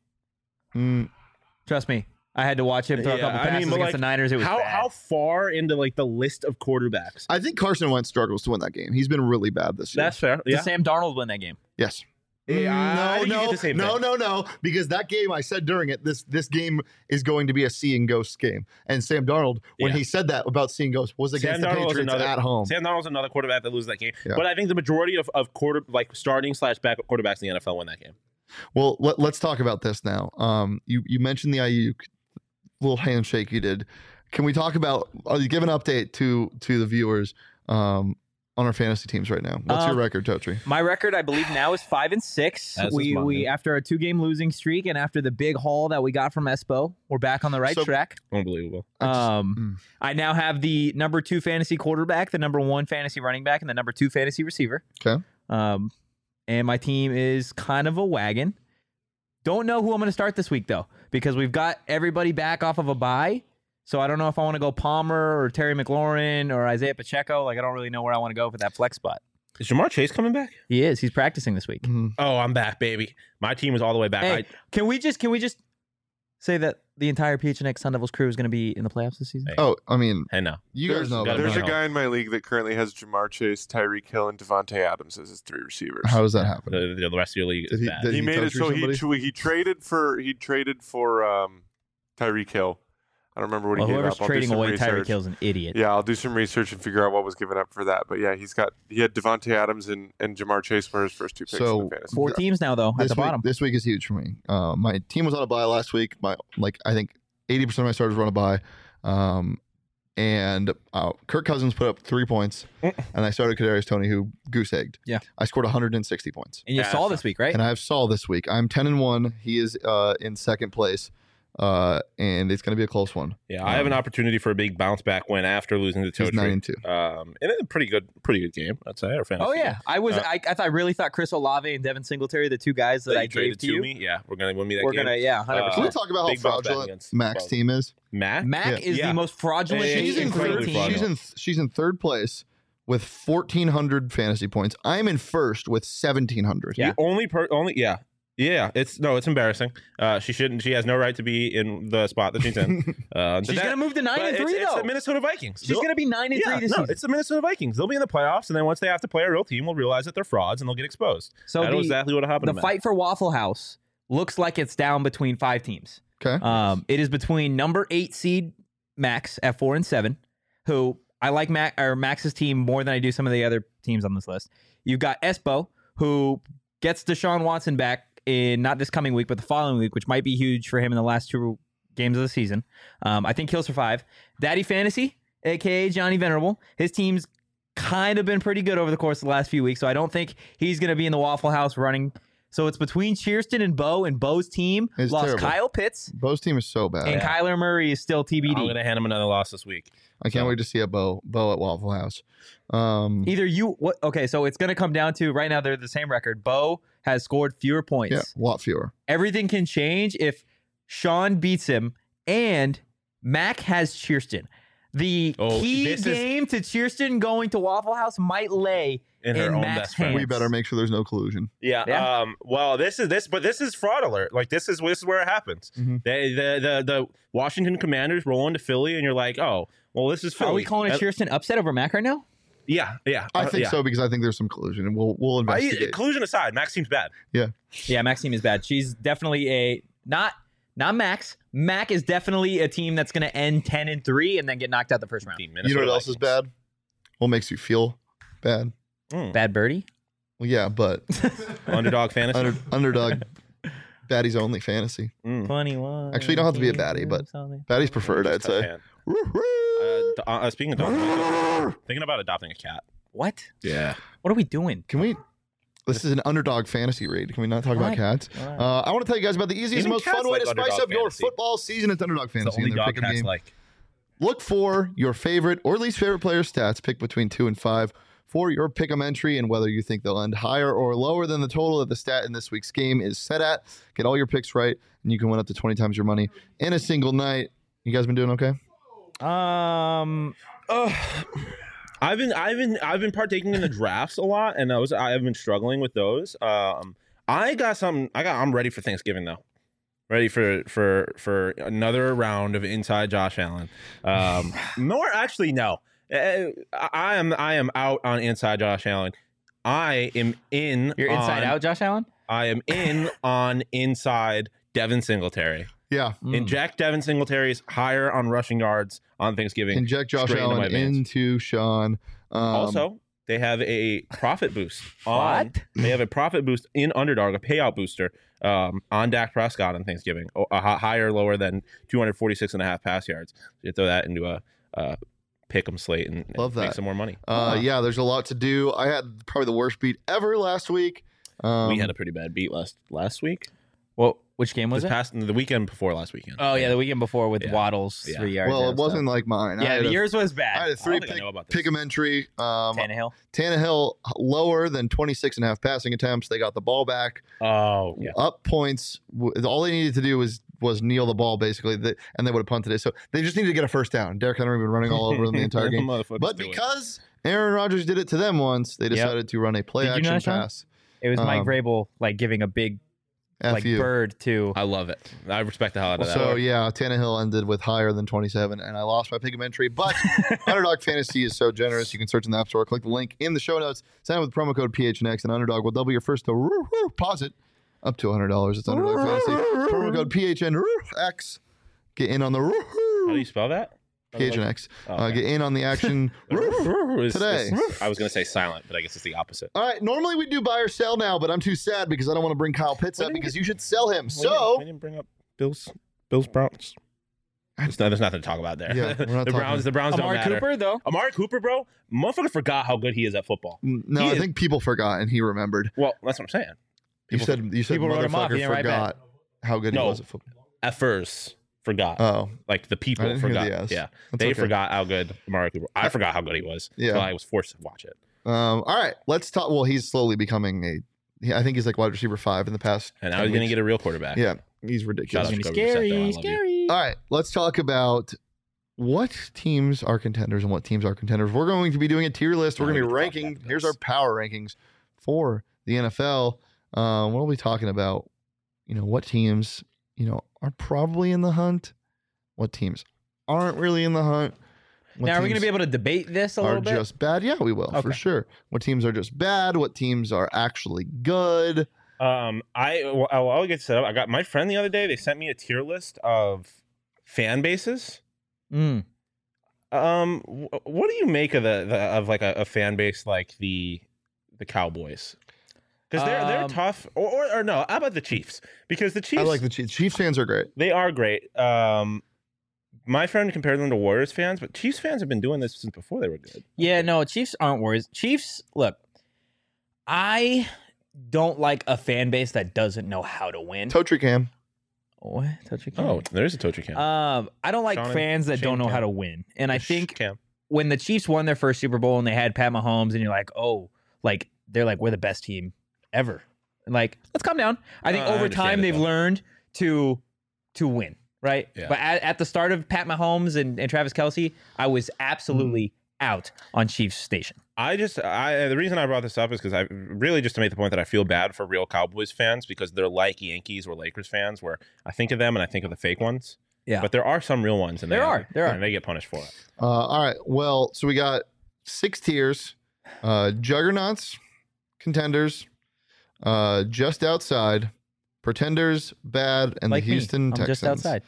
Mm, Trust me. I had to watch him throw Yeah, a couple I passes mean, but, against like, the Niners. It was how bad. how far into like the list of quarterbacks? I think Carson Wentz struggles to win that game. He's been really bad this year. That's fair. Did Yeah. Sam Darnold win that game? yes. Yeah, I think you no, get no, the same no, thing. no, no. Because that game, I said during it, this this game is going to be a seeing ghosts game. And Sam Darnold, when Yeah. he said that about seeing ghosts, was against Sam the Darnold was Patriots another- at home. Sam Darnold's another quarterback that loses that game. Yeah. But I think the majority of, of quarter like starting slash backup quarterbacks in the N F L win that game. Well, let, let's talk about this now. Um, you you mentioned the Ayuk little handshake you did. Can we talk about? Uh, give an update to to the viewers um, on our fantasy teams right now. What's your Um, record, Totri? My record, I believe, now is five and six. As is we mine. we after a two game losing streak and after the big haul that we got from Espo, we're back on the right So- track. Unbelievable. I just- Um, mm. I now have the number two fantasy quarterback, the number one fantasy running back, and the number two fantasy receiver. Okay. Um, and my team is kind of a wagon. Don't know who I'm going to start this week though, because we've got everybody back off of a bye. So I don't know if I want to go Palmer or Terry McLaurin or Isaiah Pacheco. Like I don't really know where I want to go for that flex spot. Is Jamar Chase coming back? He is. He's practicing this week. Mhm. Oh, I'm back, baby. My team is all the way back. Hey, I, can we just can we just say that the entire P H N X Sun Devils crew is going to be in the playoffs this season? Hey. Oh, I mean, hey, no. you There's, guys know gotta about there's be a that. guy in my league that currently has Jamar Chase, Tyreek Hill, and Devontae Adams as his three receivers. How does that happen? The, the rest of your league Did is he- bad. did he he made it touch so somebody? he he traded for he traded for um, Tyreek Hill, I don't remember what Well, he gave whoever's up. I'll do trading some away research. Tyreek Hill's an idiot. Yeah, I'll do some research and figure out what was given up for that. But yeah, he's got he had Devontae Adams and, and Jamar Chase were his first two picks So, in the fantasy. Four teams now, though, at This the week, bottom. this week is huge for me. Uh, my team was on a bye last week. My like I think eighty percent of my starters were on a bye. Um, and uh, Kirk Cousins put up three points, and I started Kadarius Toney, who goose egged. Yeah. I scored one hundred sixty points, And you Yeah, saw that's this week, right? and I have Saul this week. I'm ten and one. He is uh, in second place, uh, and it's going to be a close one. Yeah, I have an opportunity for a big bounce back win after losing to He's nine Totri. and two. Um, and it's a pretty good, pretty good game, I'd say. Or fantasy Oh yeah, game. I was. Uh, I, I, thought, I really thought Chris Olave and Devin Singletary, the two guys that, That I you gave traded to to you, me. Yeah, we're gonna win me that we're game. gonna yeah, hundred Uh, Can we percent. talk about how big bounce back fraudulent against Mac's Wells. team is? Mac. Mac Yeah. is Yeah. the most fraudulent Yeah, team She's in incredibly third. fraudulent. She's in she's in third place with fourteen hundred fantasy points. I'm in first with seventeen hundred. Yeah. The only per only yeah. Yeah, it's no, it's embarrassing. Uh, she shouldn't. She has no right to be in the spot that she's in. Uh, She's that- gonna move to nine but and it's, three it's though. the Minnesota Vikings. She's They'll- gonna be nine and yeah, three this no, season. it's the Minnesota Vikings. They'll be in the playoffs, and then once they have to play a real team, we'll realize that they're frauds and they'll get exposed. So That's the, exactly what happened. the to Mac. fight for Waffle House looks like it's down between five teams. Okay. Um, it is between number eight seed Max at four and seven, who I like Mac or Max's team more than I do some of the other teams on this list. You've got Espo, who gets Deshaun Watson back in not this coming week, but the following week, which might be huge for him in the last two games of the season. Um, I think he'll survive. Daddy Fantasy, aka Johnny Venerable, his team's kind of been pretty good over the course of the last few weeks, so I don't think he's going to be in the Waffle House running. So it's between Cheerston and Bo, and Bo's team It's lost terrible. Kyle Pitts, Bo's team is so bad. and Kyler Murray is still T B D. I'm going to hand him another loss this week. I can't So- wait to see a Bo Bo at Waffle House. Um, Either you, what? Okay, so it's going to come down to right now they're the same record. Bo has scored fewer points. yeah, a lot fewer. Everything can change if Sean beats him and Mac has Cheerston. The Oh, key this is- game to Cheerston going to Waffle House might lay In her in own Mac's best friend. hands. We better make sure there's no collusion. Yeah. Yeah. Um. Well, this is this, but this is fraud alert. Like this is this is where it happens. Mhm. They, the the the Washington Commanders roll into Philly, and you're like, oh, well, this is Philly. Are we calling a And- Cheerston upset over Mac right now? Yeah. Yeah. I uh, think yeah. so because I think there's some collusion, and we'll we'll I, investigate. collusion aside, Max seems bad. Yeah, Mac's team is bad. She's definitely a not not Max. Mac is definitely a team that's going to end ten and three and then get knocked out the first round. Team You know what Minnesota else is Vikings. bad? What makes you feel bad? Mm. Bad birdie. Well, yeah, but Underdog fantasy. under, underdog, baddie's only fantasy. Mm. twenty-one. Actually, you don't have to be a baddie, but baddie's preferred, I'd Tough say. hand. Uh, d- uh, speaking of dogs, thinking about adopting a cat. what? Yeah. What are we doing? Can we? This is an underdog fantasy raid. Can we not talk about What? cats? What? Uh, I want to tell you guys about the easiest Even and most cats fun way like to spice underdog up your fantasy. football season. It's underdog It's the fantasy. only and their dog pick'em cats game. like. Look for your favorite or least favorite player stats. Pick between two and five for your pick'em entry, and whether you think they'll end higher or lower than the total that the stat in this week's game is set at. Get all your picks right, and you can win up to twenty times your money in a single night. You guys been doing okay? Um. Ugh. I've been I've been I've been partaking in the drafts a lot, and those I've been struggling with those. Um, I got something. I got. I'm ready for Thanksgiving though. Ready for for for another round of inside Josh Allen. Um, more actually, no. Uh, I I am I am out on inside Josh Allen. I am in. You're inside on- out, Josh Allen. I am in on inside Devin Singletary. Yeah. Mm. Inject Devin Singletary's higher on rushing yards on Thanksgiving. Inject Josh straight into my Allen veins. into Sean. Um, Also, they have a profit boost. On, What? They have a profit boost in Underdog, a payout booster um, on Dak Prescott on Thanksgiving, o- a hi- higher, lower than two forty-six and a half pass yards. So you throw that into a, a pick 'em slate and, and Love make that. some more money. uh, yeah, there's a lot to do. I had probably the worst beat ever last week. Um, we had a pretty bad beat last last week. Well, which game was This it? past the weekend before last weekend. Oh yeah, the weekend before with Yeah. Waddles Yeah. three yards. well, and it wasn't stuff. like mine. I Yeah, had the a, yours was I bad. had a three think I pick, know about this. pick 'em entry. Um, Tannehill. Tannehill lower than twenty-six and a half passing attempts. They got the ball back. Oh yeah. Up points. W- All they needed to do was was kneel the ball basically, They- and they would have punted it. So they just needed to get a first down. Derrick Henry been running all over them the entire game. Motherfuckers But do it. because Aaron Rodgers did it to them once, they decided to run a play Did you action know that, Sean? pass. It was Mike Um, Vrabel like giving a big F like you. bird to. I love it. I respect the hell out of that. So yeah, Tannehill ended with higher than twenty-seven, and I lost my pick 'em entry. But Underdog Fantasy is so generous. You can search in the App Store, click the link in the show notes, sign up with promo code P H N X, and Underdog will double your first deposit up to one hundred dollars. It's Underdog Fantasy. Promo code P H N X. Get in on the How do you spell that? P H N X. Oh, Uh, okay. get in on the action It's- today. it's- I was going to say silent, but I guess it's the opposite. All right, normally we do buy or sell now, but I'm too sad because I don't want to bring Kyle Pitts We up didn't because get- you should sell him. We So, didn't, we didn't bring up Bills, Bills Browns. There's, no, there's nothing to talk about there. Yeah, we're not the talking- Browns, the Browns don't Amari matter. Cooper, though. Amari Cooper, bro, motherfucker forgot how good he is at football. no, He I is- think people forgot and he remembered. Well, that's what I'm saying. You People said you said people wrote him off, motherfucker he didn't write forgot how good No. he was at football. at first forgot. Oh, like the people I didn't hear forgot. the S. Yeah, that's they okay. forgot how good Amari Cooper. I forgot how good he was. Yeah. so I was forced to watch it. Um, all right, let's talk. Well, he's slowly becoming a. he- I think he's like wide receiver five in the past. And now ten he's going to weeks. get a real quarterback. Yeah, he's Shout ridiculous. out It's to gonna be Jacoby Brissett, though. I scary, love you. scary. All right, let's talk about what teams are contenders and what teams are contenders. We're going to be doing a tier list. We're Now going to we be can talk ranking. about Here's this. our power rankings for the N F L. Um, what are we talking about? You know, what teams, you know, are probably in the hunt? What teams aren't really in the hunt? What Now, are we going to teams be able to debate this a are little bit? just bad? Yeah, we will for Okay. sure. What teams are just bad? What teams are actually good? Um, I well, I'll, I'll get set up. I got my friend the other day. They sent me a tier list of fan bases. Mm. Um, wh- what do you make of the, the of like a, a fan base like the the Cowboys? Because they're they're Um, tough. Or, or or no, how about the Chiefs? Because the Chiefs, I like the Chiefs. Chiefs fans are great. they are great. Um, my friend compared them to Warriors fans, but Chiefs fans have been doing this since before they were good. Yeah, no, Chiefs aren't worries. Chiefs, look, I don't like a fan base that doesn't know how to win. Totri Cam. What? Touch your Oh, cam. there's a Tochi Cam. Um, I don't like Sean and fans that Shane don't know how Cam. to win. And I Shh, think Cam. when the Chiefs won their first Super Bowl and they had Pat Mahomes, and you're like, oh, like they're like, we're the best team ever. And like, let's calm down. I think Uh, I over understand time it, they've though. learned to to win, right? Yeah. But at, at the start of Pat Mahomes and, and Travis Kelsey, I was absolutely Mm. out on Chiefs Station. I just, I the reason I brought this up is because I really just to make the point that I feel bad for real Cowboys fans because they're like Yankees or Lakers fans, where I think of them and I think of the fake ones. Yeah. But there are some real ones, and There they, are, there are. and they get punished for it. Uh, all right. Well, so we got six tiers: uh, juggernauts, contenders, uh, just outside, pretenders, bad, and like the me. Houston I'm Texans. just outside.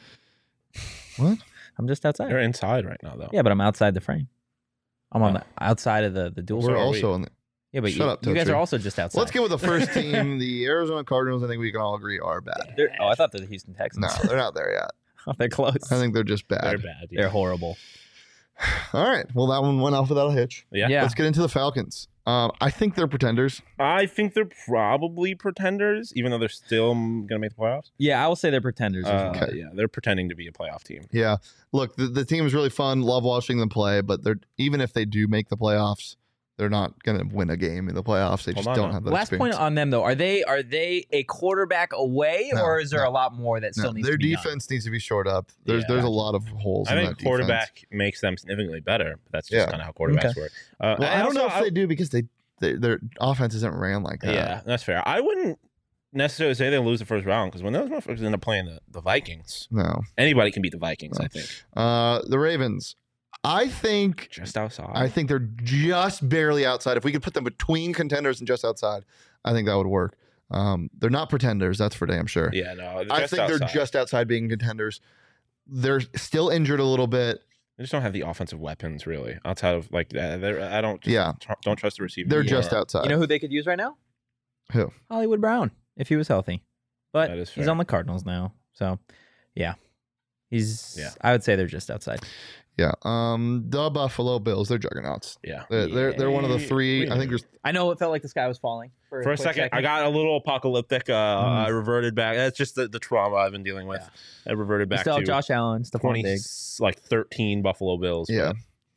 What? I'm just outside. They're inside right now, though. Yeah, but I'm outside the frame. I'm on Oh. the outside of the the dual. So We're are also we. on the. Yeah, but Shut you, up, you guys Totri. are also just outside. Let's get with the first team. The Arizona Cardinals. I think we can all agree are bad. They're- oh, I thought they're the Houston Texans. No, they're not there yet. Oh, they're close. I think they're just They're bad. bad. Yeah. they're horrible. All right. Well, that one went off without a hitch. yeah. Yeah. Let's get into the Falcons. Um, I think they're pretenders. I think they're probably pretenders, even though they're still going to make the playoffs. Yeah, I will say they're pretenders. as Uh, well. Okay. Yeah, they're pretending to be a playoff team. Yeah. Look, the, the team is really fun. Love watching them play, but they're even if they do make the playoffs, they're not going to win a game in the playoffs. They Hold just on don't now. have that Last point experience. on them though, are they are they a quarterback away, No, or is there no. a lot more that still No, needs their to be defense needs to be shored up. There's Yeah. there's a lot of holes I in think that quarterback defense. makes them significantly better. But that's just Yeah. kind of how quarterbacks work. Uh, Well, I don't also- know if I- they do because they, they their offense isn't ran like that. Yeah, that's fair. I wouldn't necessarily say they lose the first round because when those motherfuckers end up playing the, the Vikings, No. anybody can beat the Vikings. No. I think Uh, the Ravens. I think just outside. I think they're just barely outside. If we could put them between contenders and just outside, I think that would work. Um, they're not pretenders, that's for damn sure. yeah, no. I just think outside. they're just outside being contenders. They're still injured a little bit. They just don't have the offensive weapons really outside of like that. They're, I don't. Just Yeah. tr- don't trust the receiver. They're anymore. just outside. You know who they could use right now? Who? Hollywood Brown, if he was healthy. But That is he's fair. on the Cardinals now, so yeah, he's. Yeah. I would say they're just outside. Yeah. Um, the Buffalo Bills, they're juggernauts. Yeah. They're, they're, they're one of the Yeah. three. I think there's I know it felt like the sky was falling for, For a quick second, I got a little apocalyptic. Uh, Mm. I reverted back. That's just the, the trauma I've been dealing with. I reverted You back still have to Josh Allen, Stephon twenty, Diggs. like thirteen Buffalo Bills. yeah.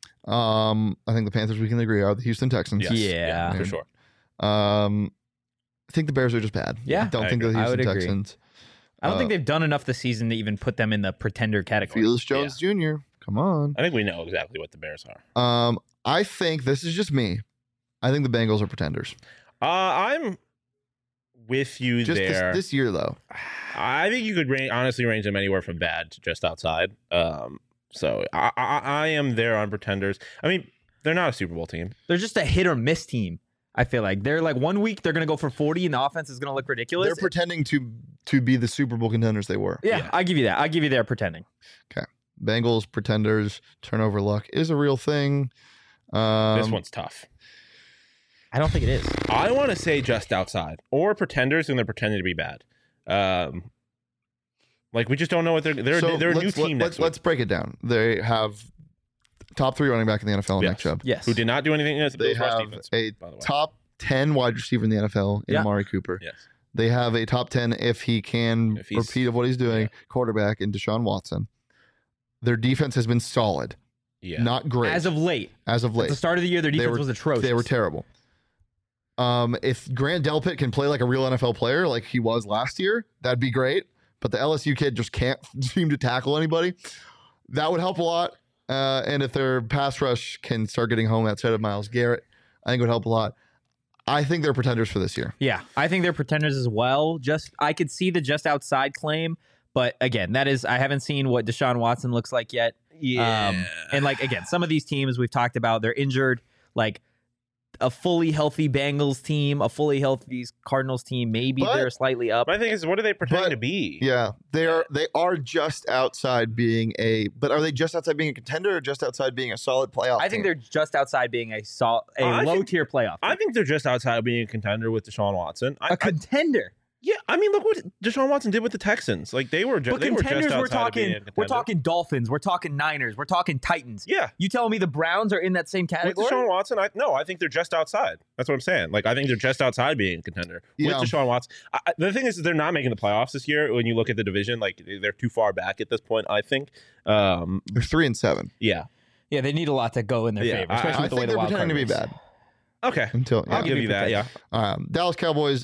Um, I think the Panthers we can agree are the Houston Texans. Yes, Yeah. for sure. Um, I think the Bears are just bad. Yeah. I don't I think they're the agree. I Houston would agree. Texans. I don't think Uh, they've done enough this season to even put them in the pretender category. Felix Jones Junior Come on. I think we know exactly what the Bears are. Um, I think this is just me. I think the Bengals are pretenders. Uh, I'm with you Just this, there. this year, though. I think you could range, honestly range them anywhere from bad to just outside. Um, so I, I, I am there on pretenders. I mean, they're not a Super Bowl team. They're just a hit or miss team. I feel like they're like one week they're gonna go for forty and the offense is gonna look ridiculous. They're pretending to to be the Super Bowl contenders they were. yeah, Yeah. I'll give you that. I'll give you they're pretending. Bengals pretenders turnover luck is a real thing. Um, This one's tough. I don't think it is. I want to say just outside or pretenders, and they're pretending to be bad. Um, like we just don't know what they're they're so they're a new let's- team Let's, next week, let's break it down. They have top three running back in the N F L in Yes. Nick Chubb. Yes. who did not do anything against the They Bills' rush have defense. a by the way. top ten wide receiver in the N F L in Yeah. Amari Cooper. Yes. They have a top ten if he can If he's- repeat of what he's doing, yeah. quarterback in Deshaun Watson. Their defense has been solid, Yeah. not great As of late, as of at late. the start of the year, their They defense were- was atrocious. They were terrible. Um, if Grant Delpit can play like a real N F L player, like he was last year, that'd be great. But the L S U kid just can't seem to tackle anybody. That would help a lot. Uh, and if their pass rush can start getting home outside of Myles Garrett, I think it would help a lot. I think they're pretenders for this year. Yeah, I think they're pretenders as well. Just I could see the just outside claim, but again, that is I haven't seen what Deshaun Watson looks like yet. Yeah. Um, and like again, some of these teams we've talked about, they're injured. Like a fully healthy Bengals team, a fully healthy Cardinals team, maybe But- they're slightly up. My thing is, what are they pretending But- to be? Yeah, they are. They are just outside being a. But are they just outside being a contender, or just outside being a solid playoff? I think team? they're just outside being a sol- a I low think- tier playoff. I think they're just outside of being a contender with Deshaun Watson. I, a contender. I, yeah, I mean, look what Deshaun Watson did with the Texans. Like they were, ju- But they were just contenders, outside we're of being talking a we're contender. talking Dolphins, we're talking Niners, we're talking Titans. Yeah, You telling me the Browns are in that same with category? Deshaun Watson, I no, I think they're just outside. That's what I'm saying. Like I think they're just outside being a contender Yeah. with Deshaun Watson. I, I- the thing is, they're not making the playoffs this year. When you look at the division, like they're too far back at this point. I think. Um, They're three and seven. yeah. Yeah, they need a lot to go in their Yeah, favor, I- especially I with the think way the they're wild pretending to be card bad Okay. until. I'll Yeah. give you that. Yeah. Um, Dallas Cowboys.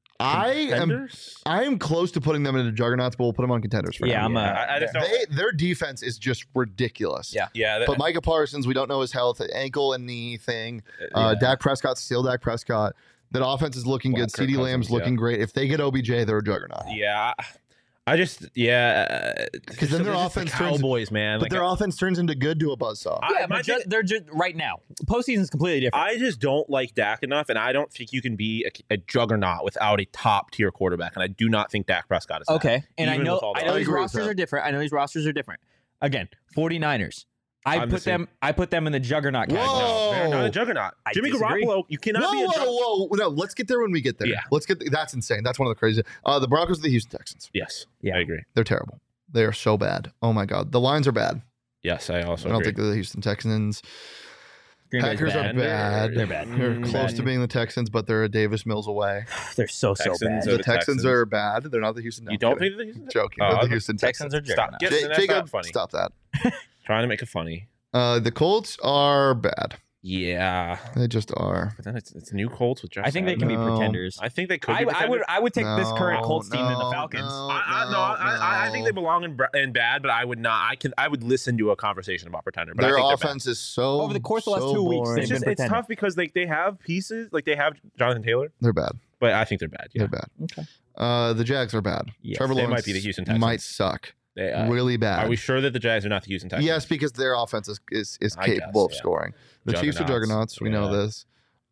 I am. Contenders? I am close to putting them into juggernauts, but we'll put them on contenders for Yeah, now. I'm a- I, I just don't. They, their defense is just ridiculous. Yeah. yeah. That, But Micah Parsons, we don't know his health, ankle and knee thing. Uh, yeah. Dak Prescott's still Dak Prescott. That offense is looking Well, good. Kirk CeeDee Cousins, Lamb's yeah. looking great. If they get O B J, they're a juggernaut. Yeah, I just yeah. Because then their They're just the offense turns- Cowboys, man. But Like, their offense turns into good to a buzzsaw. I- Yeah, my but ju- thing- they're just right now. Postseason's completely different. I just don't like Dak enough, and I don't think you can be a, a juggernaut without a top tier quarterback. And I do not think Dak Prescott is that. Okay, and I even know with all the I know I these agree with rosters that. are different. I know these rosters are different. Again, 49ers. I I'm the put same. them. I put them in the juggernaut Whoa. category. No, they're not Oh. a juggernaut. I Jimmy disagree. Garoppolo, you cannot Whoa, be a juggernaut. whoa, whoa! No, let's get there when we get there. Yeah. Let's get. That's insane. That's one of the crazy. Uh, the Broncos, are the Houston Texans. Yes, Yeah. I agree. They're terrible. They are so bad. Oh my god, the lines are bad. Yes, I also I don't agree. think they're the Houston Texans. Green Bay's Packers bad. are bad. They're bad. They're Mm, close bad. to being the Texans, but they're a Davis Mills away. They're so so Texans bad. are The, the Texans, Texans. are bad. They're not the Houston. No, you I'm don't kidding. think the Houston? Joking. Oh, They're the okay. Houston Texans Texans. are Stop. juggernauts. Yes, Ja- that's Jacob, not funny. stop that. Trying to make it funny. Uh, the Colts are bad. Yeah, They just are. but then it's it's new Colts with Josh. I think they can be No. pretenders. I think they could. I, be I would. I would take this current No, Colts team than the no, Falcons. no. I, I, no, I, I- I think they belong in, br- in bad, but I would not. I can. I would listen to a conversation about pretender. But I Their think they're bad. offense is so Over the course of the last so two weeks, boring. It's they've just been it's pretending. tough because like they have pieces, like they have Jonathan Taylor, They're bad. but I think they're bad. Yeah, They're bad. Okay. Uh, the Jags are bad. Yes. Trevor They Lawrence might be the Houston Texans. might suck. They, uh, really bad. Are we sure that the Jags are not the Houston Texans? Yes, because their offense is is, is I capable guess, of yeah. scoring. The Chiefs are Juggernauts. juggernauts. We know Yeah. this.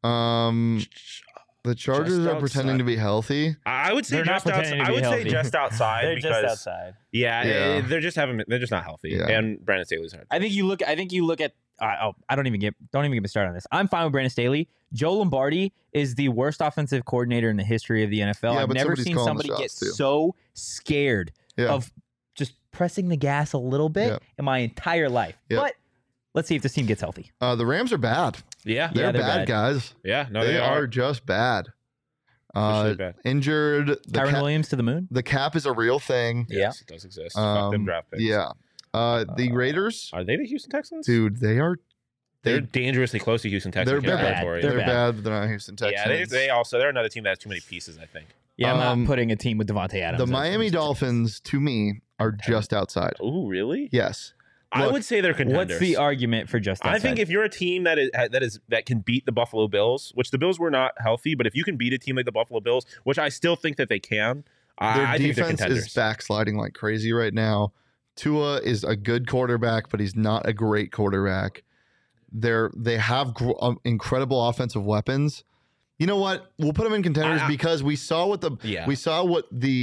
Um, the Chargers Just are pretending outside. to be healthy. I I would say They're not just outside. pretending to I be would say healthy. just outside They're because just outside. yeah, Yeah. eh, they're just having they're just not healthy. Yeah. And Brandon Staley's hurt. I think you look. I think you look at. Uh, oh, I don't even get. Don't even get me started on this. I'm fine with Brandon Staley. Joe Lombardi is the worst offensive coordinator in the history of the N F L. Yeah, I've but never somebody's seen calling the somebody get shots, too. so scared Yeah. of just pressing the gas a little bit Yep. in my entire life. Yep. But let's see if this team gets healthy. Uh, the Rams are bad. Yeah, They're, Yeah, they're bad, bad. guys. yeah. No, they, they, are. are. just bad. Officially Uh, bad. injured. The, Tyron cap, Williams to the moon. the cap is a real thing. Yes, it does exist. Fuck Um, them draft picks. yeah. Uh, the Uh, Raiders, Are they the Houston Texans? dude, they are. they're They, dangerously close to Houston Texans. they're in bad. territory. They're they're bad. bad. They're not Houston Texans. Yeah, they, they also they're another team that has too many pieces. I think. Yeah, I'm Um, not putting a team with Devontae Adams. the as Miami Houston Dolphins, to me, are just outside. Oh, really? Yes. I Look, would say they're Texans. contenders. What's the argument for just outside? I think if you're a team that is that is that can beat the Buffalo Bills, which the Bills were not healthy, but if you can beat a team like the Buffalo Bills, which I still think that they can, I, Their I think they're defense contenders. is backsliding like crazy right now. Tua is a good quarterback, but he's not a great quarterback. They're they have gr- um, incredible offensive weapons. You know what? We'll put them in contenders I- I- because we saw what the Yeah. we saw what the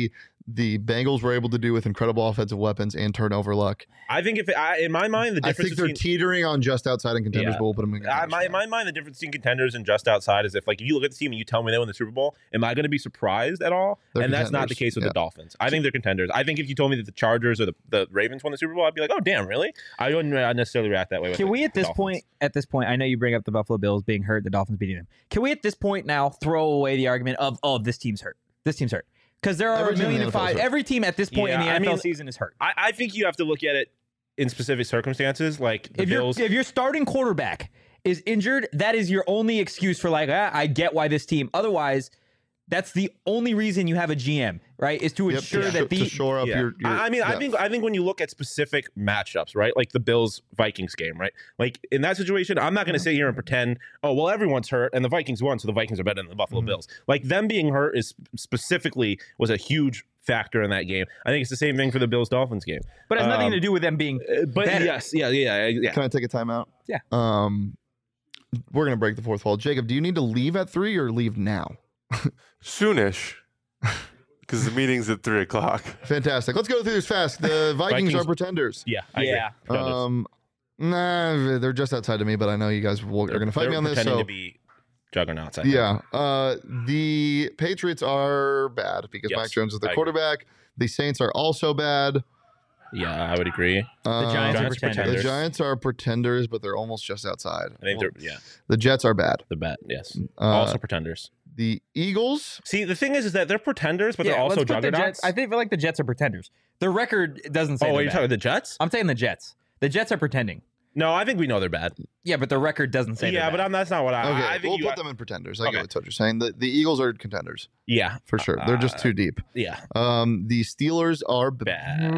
the Bengals were able to do with incredible offensive weapons and turnover luck. I think if it, I, in my mind the I difference think they're between teetering on just outside and contenders, Yeah. but we'll put them in. I, my, in my mind, the difference between contenders and just outside is if, like, if you look at the team and you tell me they won the Super Bowl, am I going to be surprised at all? They're and that's not the contenders. case with Yeah. the Dolphins. I think they're contenders. I think if you told me that the Chargers or the, the Ravens won the Super Bowl, I'd be like, oh, damn, really? I wouldn't uh, necessarily react that way. With Can the, we at the this Dolphins. point, at this point, I know you bring up the Buffalo Bills being hurt, the Dolphins beating them. Can we at this point now throw away the argument of, oh, this team's hurt. This team's hurt. Because there are Every a team in million the and N F L is five. hurt. Every team at this point in the Yeah, I N F L mean, season is hurt. I, I think you have to look at it in specific circumstances, like the If your Bills. if your starting quarterback is injured, that is your only excuse for like, ah, I get why this team. Otherwise, that's the only reason you have a G M, right? Is to Yep, ensure to, that sh- the to shore up Yeah. your, your. I I mean, I depth. think I think when you look at specific matchups, right, like the Bills Vikings game, right, like in that situation, I'm not going to sit here and pretend, oh, well, everyone's hurt and the Vikings won, so the Vikings are better than the Buffalo Mhm. Bills. Like them being hurt is specifically was a huge factor in that game. I think it's the same thing for the Bills Dolphins game. but it has nothing um, to do with them being. Uh, But Better. yes, yeah, yeah, yeah. Can I take a timeout? Yeah. Um, we're gonna break the fourth wall. Jacob, do you need to leave at three or leave now? Soonish, because the meeting's at three o'clock. Fantastic. Let's go through this fast. The Vikings, Vikings. are pretenders. Yeah, I agree. Yeah. Pretenders. Um, nah, they're just outside of me, but I know you guys will, are going to fight They're me on this. pretending So to be juggernauts. I think. yeah, uh, the Patriots are bad because Yes, Mike Jones is the I agree. quarterback. The Saints are also bad. yeah, I would agree. Um, Giants are Giants pretenders. The pretenders. Giants are pretenders, but they're almost just outside. I think Well, they're yeah, the Jets are bad. the bet. Yes, Uh, also pretenders. the Eagles. See, the thing is, is that they're pretenders, but Yeah, they're also let's put the juggernauts. Jets. I think feel like the Jets are pretenders. Their record doesn't say. oh, they're are you bad. talking the Jets? I'm saying the Jets. The Jets are pretending. No, I think we know they're bad. Yeah, but the record doesn't say. yeah, they're but bad. I'm, that's not what I. Okay, I think we'll you. put them in pretenders. I Okay. get what you're saying. The, the Eagles are contenders yeah, for sure. They're just Uh, too deep. yeah, Um, the Steelers are b- bad.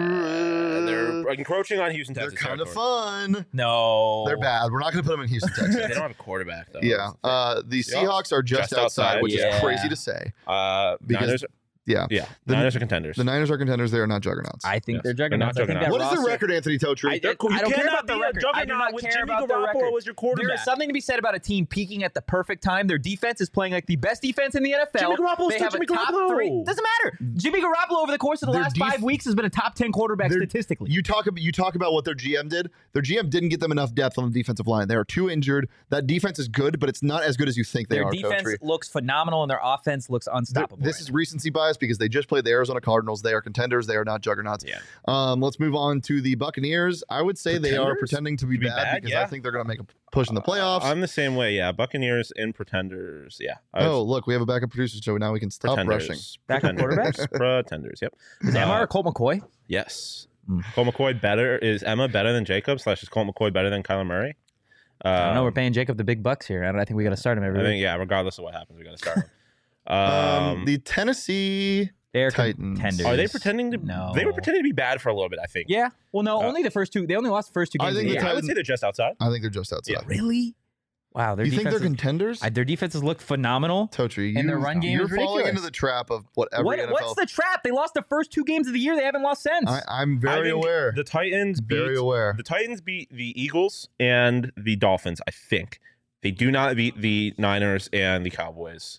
They're encroaching on Houston, They're Texas. kind of territory. fun. no. They're bad. We're not going to put them in Houston, They Texas. don't have a quarterback though. Yeah. Uh, the Seahawks are just, Just outside, outside, which yeah. is crazy to say. Uh, Because- Niners. Yeah. Yeah, The- Niners are contenders. The Niners are contenders. They are not juggernauts. I think Yes. they're They're juggernauts. not I think that juggernauts. What is the roster- record, Anthony Totri? I- They're cool. I You don't care cannot about the be a record. I do juggernaut not with care Jimmy about the Garoppolo record. as your quarterback. There is something to be said about a team peaking at the perfect time. Their defense is playing like the best defense in the N F L. Jimmy Garoppolo's they still have Jimmy a top Garoppolo. three. Doesn't matter. Jimmy Garoppolo over the course of the Their last def- five weeks has been a top ten quarterback Their- statistically. You talk about you talk about what their G M did. Their G M didn't get them enough depth on the defensive line. They are too injured. That defense is good, but it's not as good as you think they Their are. defense Totri. looks phenomenal, and their offense looks Th- unstoppable. This right is now. recency bias because they just played the Arizona Cardinals. They are contenders. They are not juggernauts. Yeah. Um, let's move on to the Buccaneers. I would say they are Pretenders? pretending to be, To be bad, bad, because I yeah. think they're going to make a push in the playoffs. I'm the same way. Yeah, Buccaneers and pretenders. Yeah. I oh, was- look, we have a backup producer, so now we can stop pretenders. rushing. Backup Pretenders. quarterbacks? Pretenders. Yep. Is Uh, Amar or Colt McCoy? Yes. Mm. Colt McCoy better is Emma better than Jacob slash is Colt McCoy better than Kyler Murray? Um, I don't know. We're paying Jacob the big bucks here. I, don't, I think we got to start him every I week. think yeah. Regardless of what happens, we got to start. him. Um, Um, the Tennessee They're Titans. contenders. are they pretending to? No. They were pretending to be bad for a little bit. I think. Yeah. Well, no, Uh, only the first two. They only lost the first two I games. think of the the Yeah, year. I would say they're just outside. I think they're just outside. Yeah. Really? Wow. Their You think they're defenses, contenders? I, their defenses look phenomenal. Totri, you, And their run game you're is falling ridiculous. into the trap of what every What, N F L. what's the trap? They lost the first two games of the year. They haven't lost since. I, I'm I very think aware. The Titans beat Very aware. the Titans beat the Eagles and the Dolphins. I think they do not beat the Niners and the Cowboys.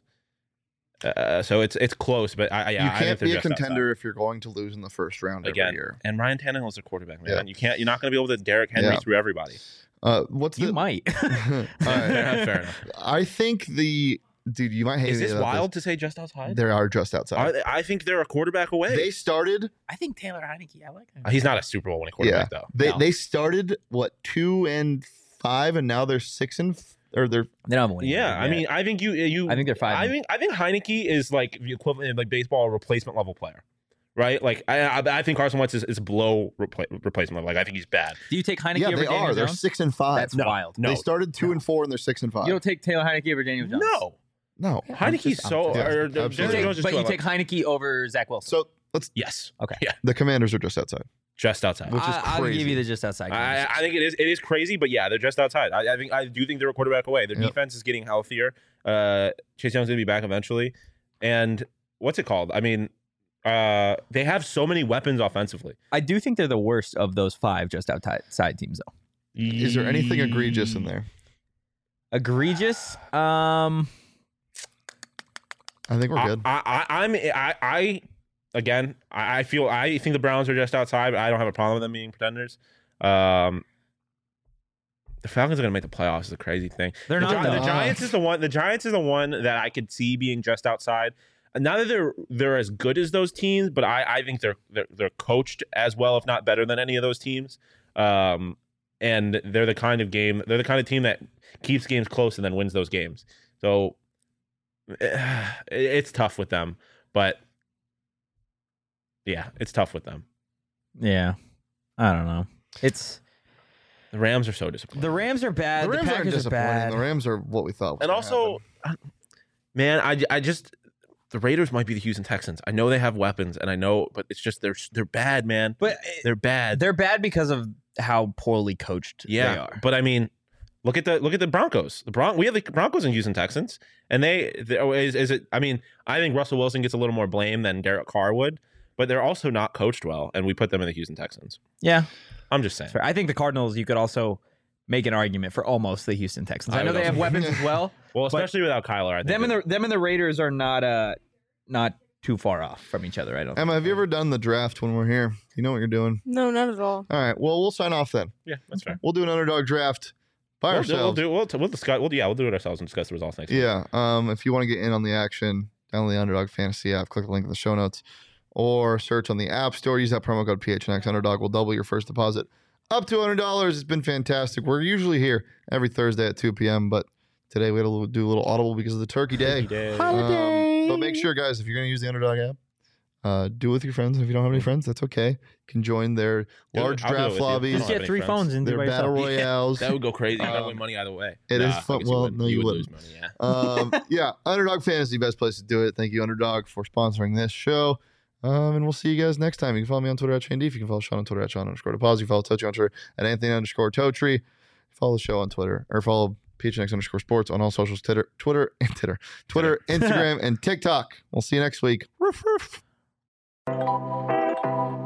Uh, so it's it's close, but I, I- yeah, you I think can't they're be a just outside. contender if you're going to lose in the first round Again, every year. and Ryan Tannehill is a quarterback, man. Yeah. You can't. You're not going to be able to Derrick Henry Yeah. through everybody. Uh, what's you the? might. All right. Fair enough. I think the dude. You might hate Is me this about wild to say just This. outside? They are just outside. Are they- I think they're a quarterback away. They started. I think Taylor Heineke. I like him. Uh, He's not a Super Bowl winning quarterback though. They No. they started what two and five, and now they're six and f- or they're They don't have a winning Yeah, record I yet. mean, I think you you. I think they're five. I think I think Heineke is like the equivalent of like baseball replacement level player, right? Like I I, I think Carson Wentz is, is below repla- replacement level. Like I think he's bad. Do you take Heineke yeah over they Daniel are. They're Jones? six and five. That's No. wild. No, They started two No. and four, and they're six and five. You don't take Taylor Heineke over Daniel Jones. no, no. Heineke's just- so. yeah, or, absolutely. You Daniel take- Jones is but too you high. take Heineke over Zach Wilson. So let's. yes, Okay. yeah, The Commanders are just outside. just outside. Which is I, I'll crazy. give you the just outside. I, I think it is it is crazy, but yeah, they're just outside. I, I think I do think they're a quarterback away. Their Yep. defense is getting healthier. Uh, Chase Young's gonna be back eventually, and what's it called? I mean, uh, they have so many weapons offensively. I do think they're the worst of those five just outside teams, though. Is there anything egregious in there? Egregious. Um, I think we're I, good. I, I, I'm I, I again, I, I feel I think the Browns are just outside. But I don't have a problem with them being pretenders. Um, the Falcons are going to make the playoffs. Is a crazy thing. They're the, not. Gi- though. the Giants is the one. The Giants is the one that I could see being just outside. Not that they're they're as good as those teams, but I, I think they're, they're they're coached as well, if not better than any of those teams. Um, and they're the kind of game they're the kind of team that keeps games close and then wins those games. So it's tough with them, but yeah, it's tough with them. Yeah, I don't know. It's the Rams are so disappointing. the Rams are bad. The Rams the aren't Packers are disappointing. bad. The Rams are what we thought. Was and gonna also, happen. man, I, I just the Raiders might be the Houston Texans. I know they have weapons, and I know, but it's just they're they're bad, man. But They're bad. they're bad because of how poorly coached Yeah, they are. but I mean, look at the look at the Broncos. The Bron- we have the Broncos and Houston Texans, and they, they is, is it? I mean, I think Russell Wilson gets a little more blame than Derek Carr would, but they're also not coached well, and we put them in the Houston Texans. Yeah, I'm just saying. fair. I think the Cardinals. You could also make an argument for almost the Houston Texans. I, I know would they have also- weapons as well. Well, especially without Kyler, I think Them and it- the them and the Raiders are not uh not too far off from each other. I don't. Emma, think. have you ever done the draft when we're here? You know what you're doing. No, not at all. All right. Well, we'll sign off then. yeah, that's fair. We'll do an underdog draft by We'll do, we'll ourselves. do we'll, we'll discuss. We'll, yeah, we'll do it ourselves and discuss the results next week. Yeah. Um, if you want to get in on the action, download the Underdog Fantasy app. Click the link in the show notes, or search on the App Store. Use that promo code P H N X. Underdog will double your first deposit up to one hundred dollars. It's been fantastic. We're usually here every Thursday at two p.m., but today we had to do a little audible because of the Turkey Day. Turkey Day. Um, but make sure, guys, if you're going to use the Underdog app, uh, do it with your friends. And if you don't have any friends, that's okay. You can join their Do it. large I'll do it draft with you. lobbies, I Just don't have get any three friends. phones and do their it by battle yourself. royales. That would go crazy. You're gonna Um, win money either way. it Nah, is I fun- guess well, you would, no, you you would wouldn't. lose money. Yeah. um, yeah, Underdog Fantasy, best place to do it. Thank you, Underdog, for sponsoring this show. Um, and we'll see you guys next time. You can follow me on Twitter at Shane Deef. You can follow Sean on Twitter at Sean underscore Deposit. You can follow Totri on Twitter at Anthony underscore Totri. Follow the show on Twitter, or follow P H N X underscore Sports on all socials, Twitter, Twitter, and Twitter, Twitter, Instagram, and TikTok. We'll see you next week. Roof, roof.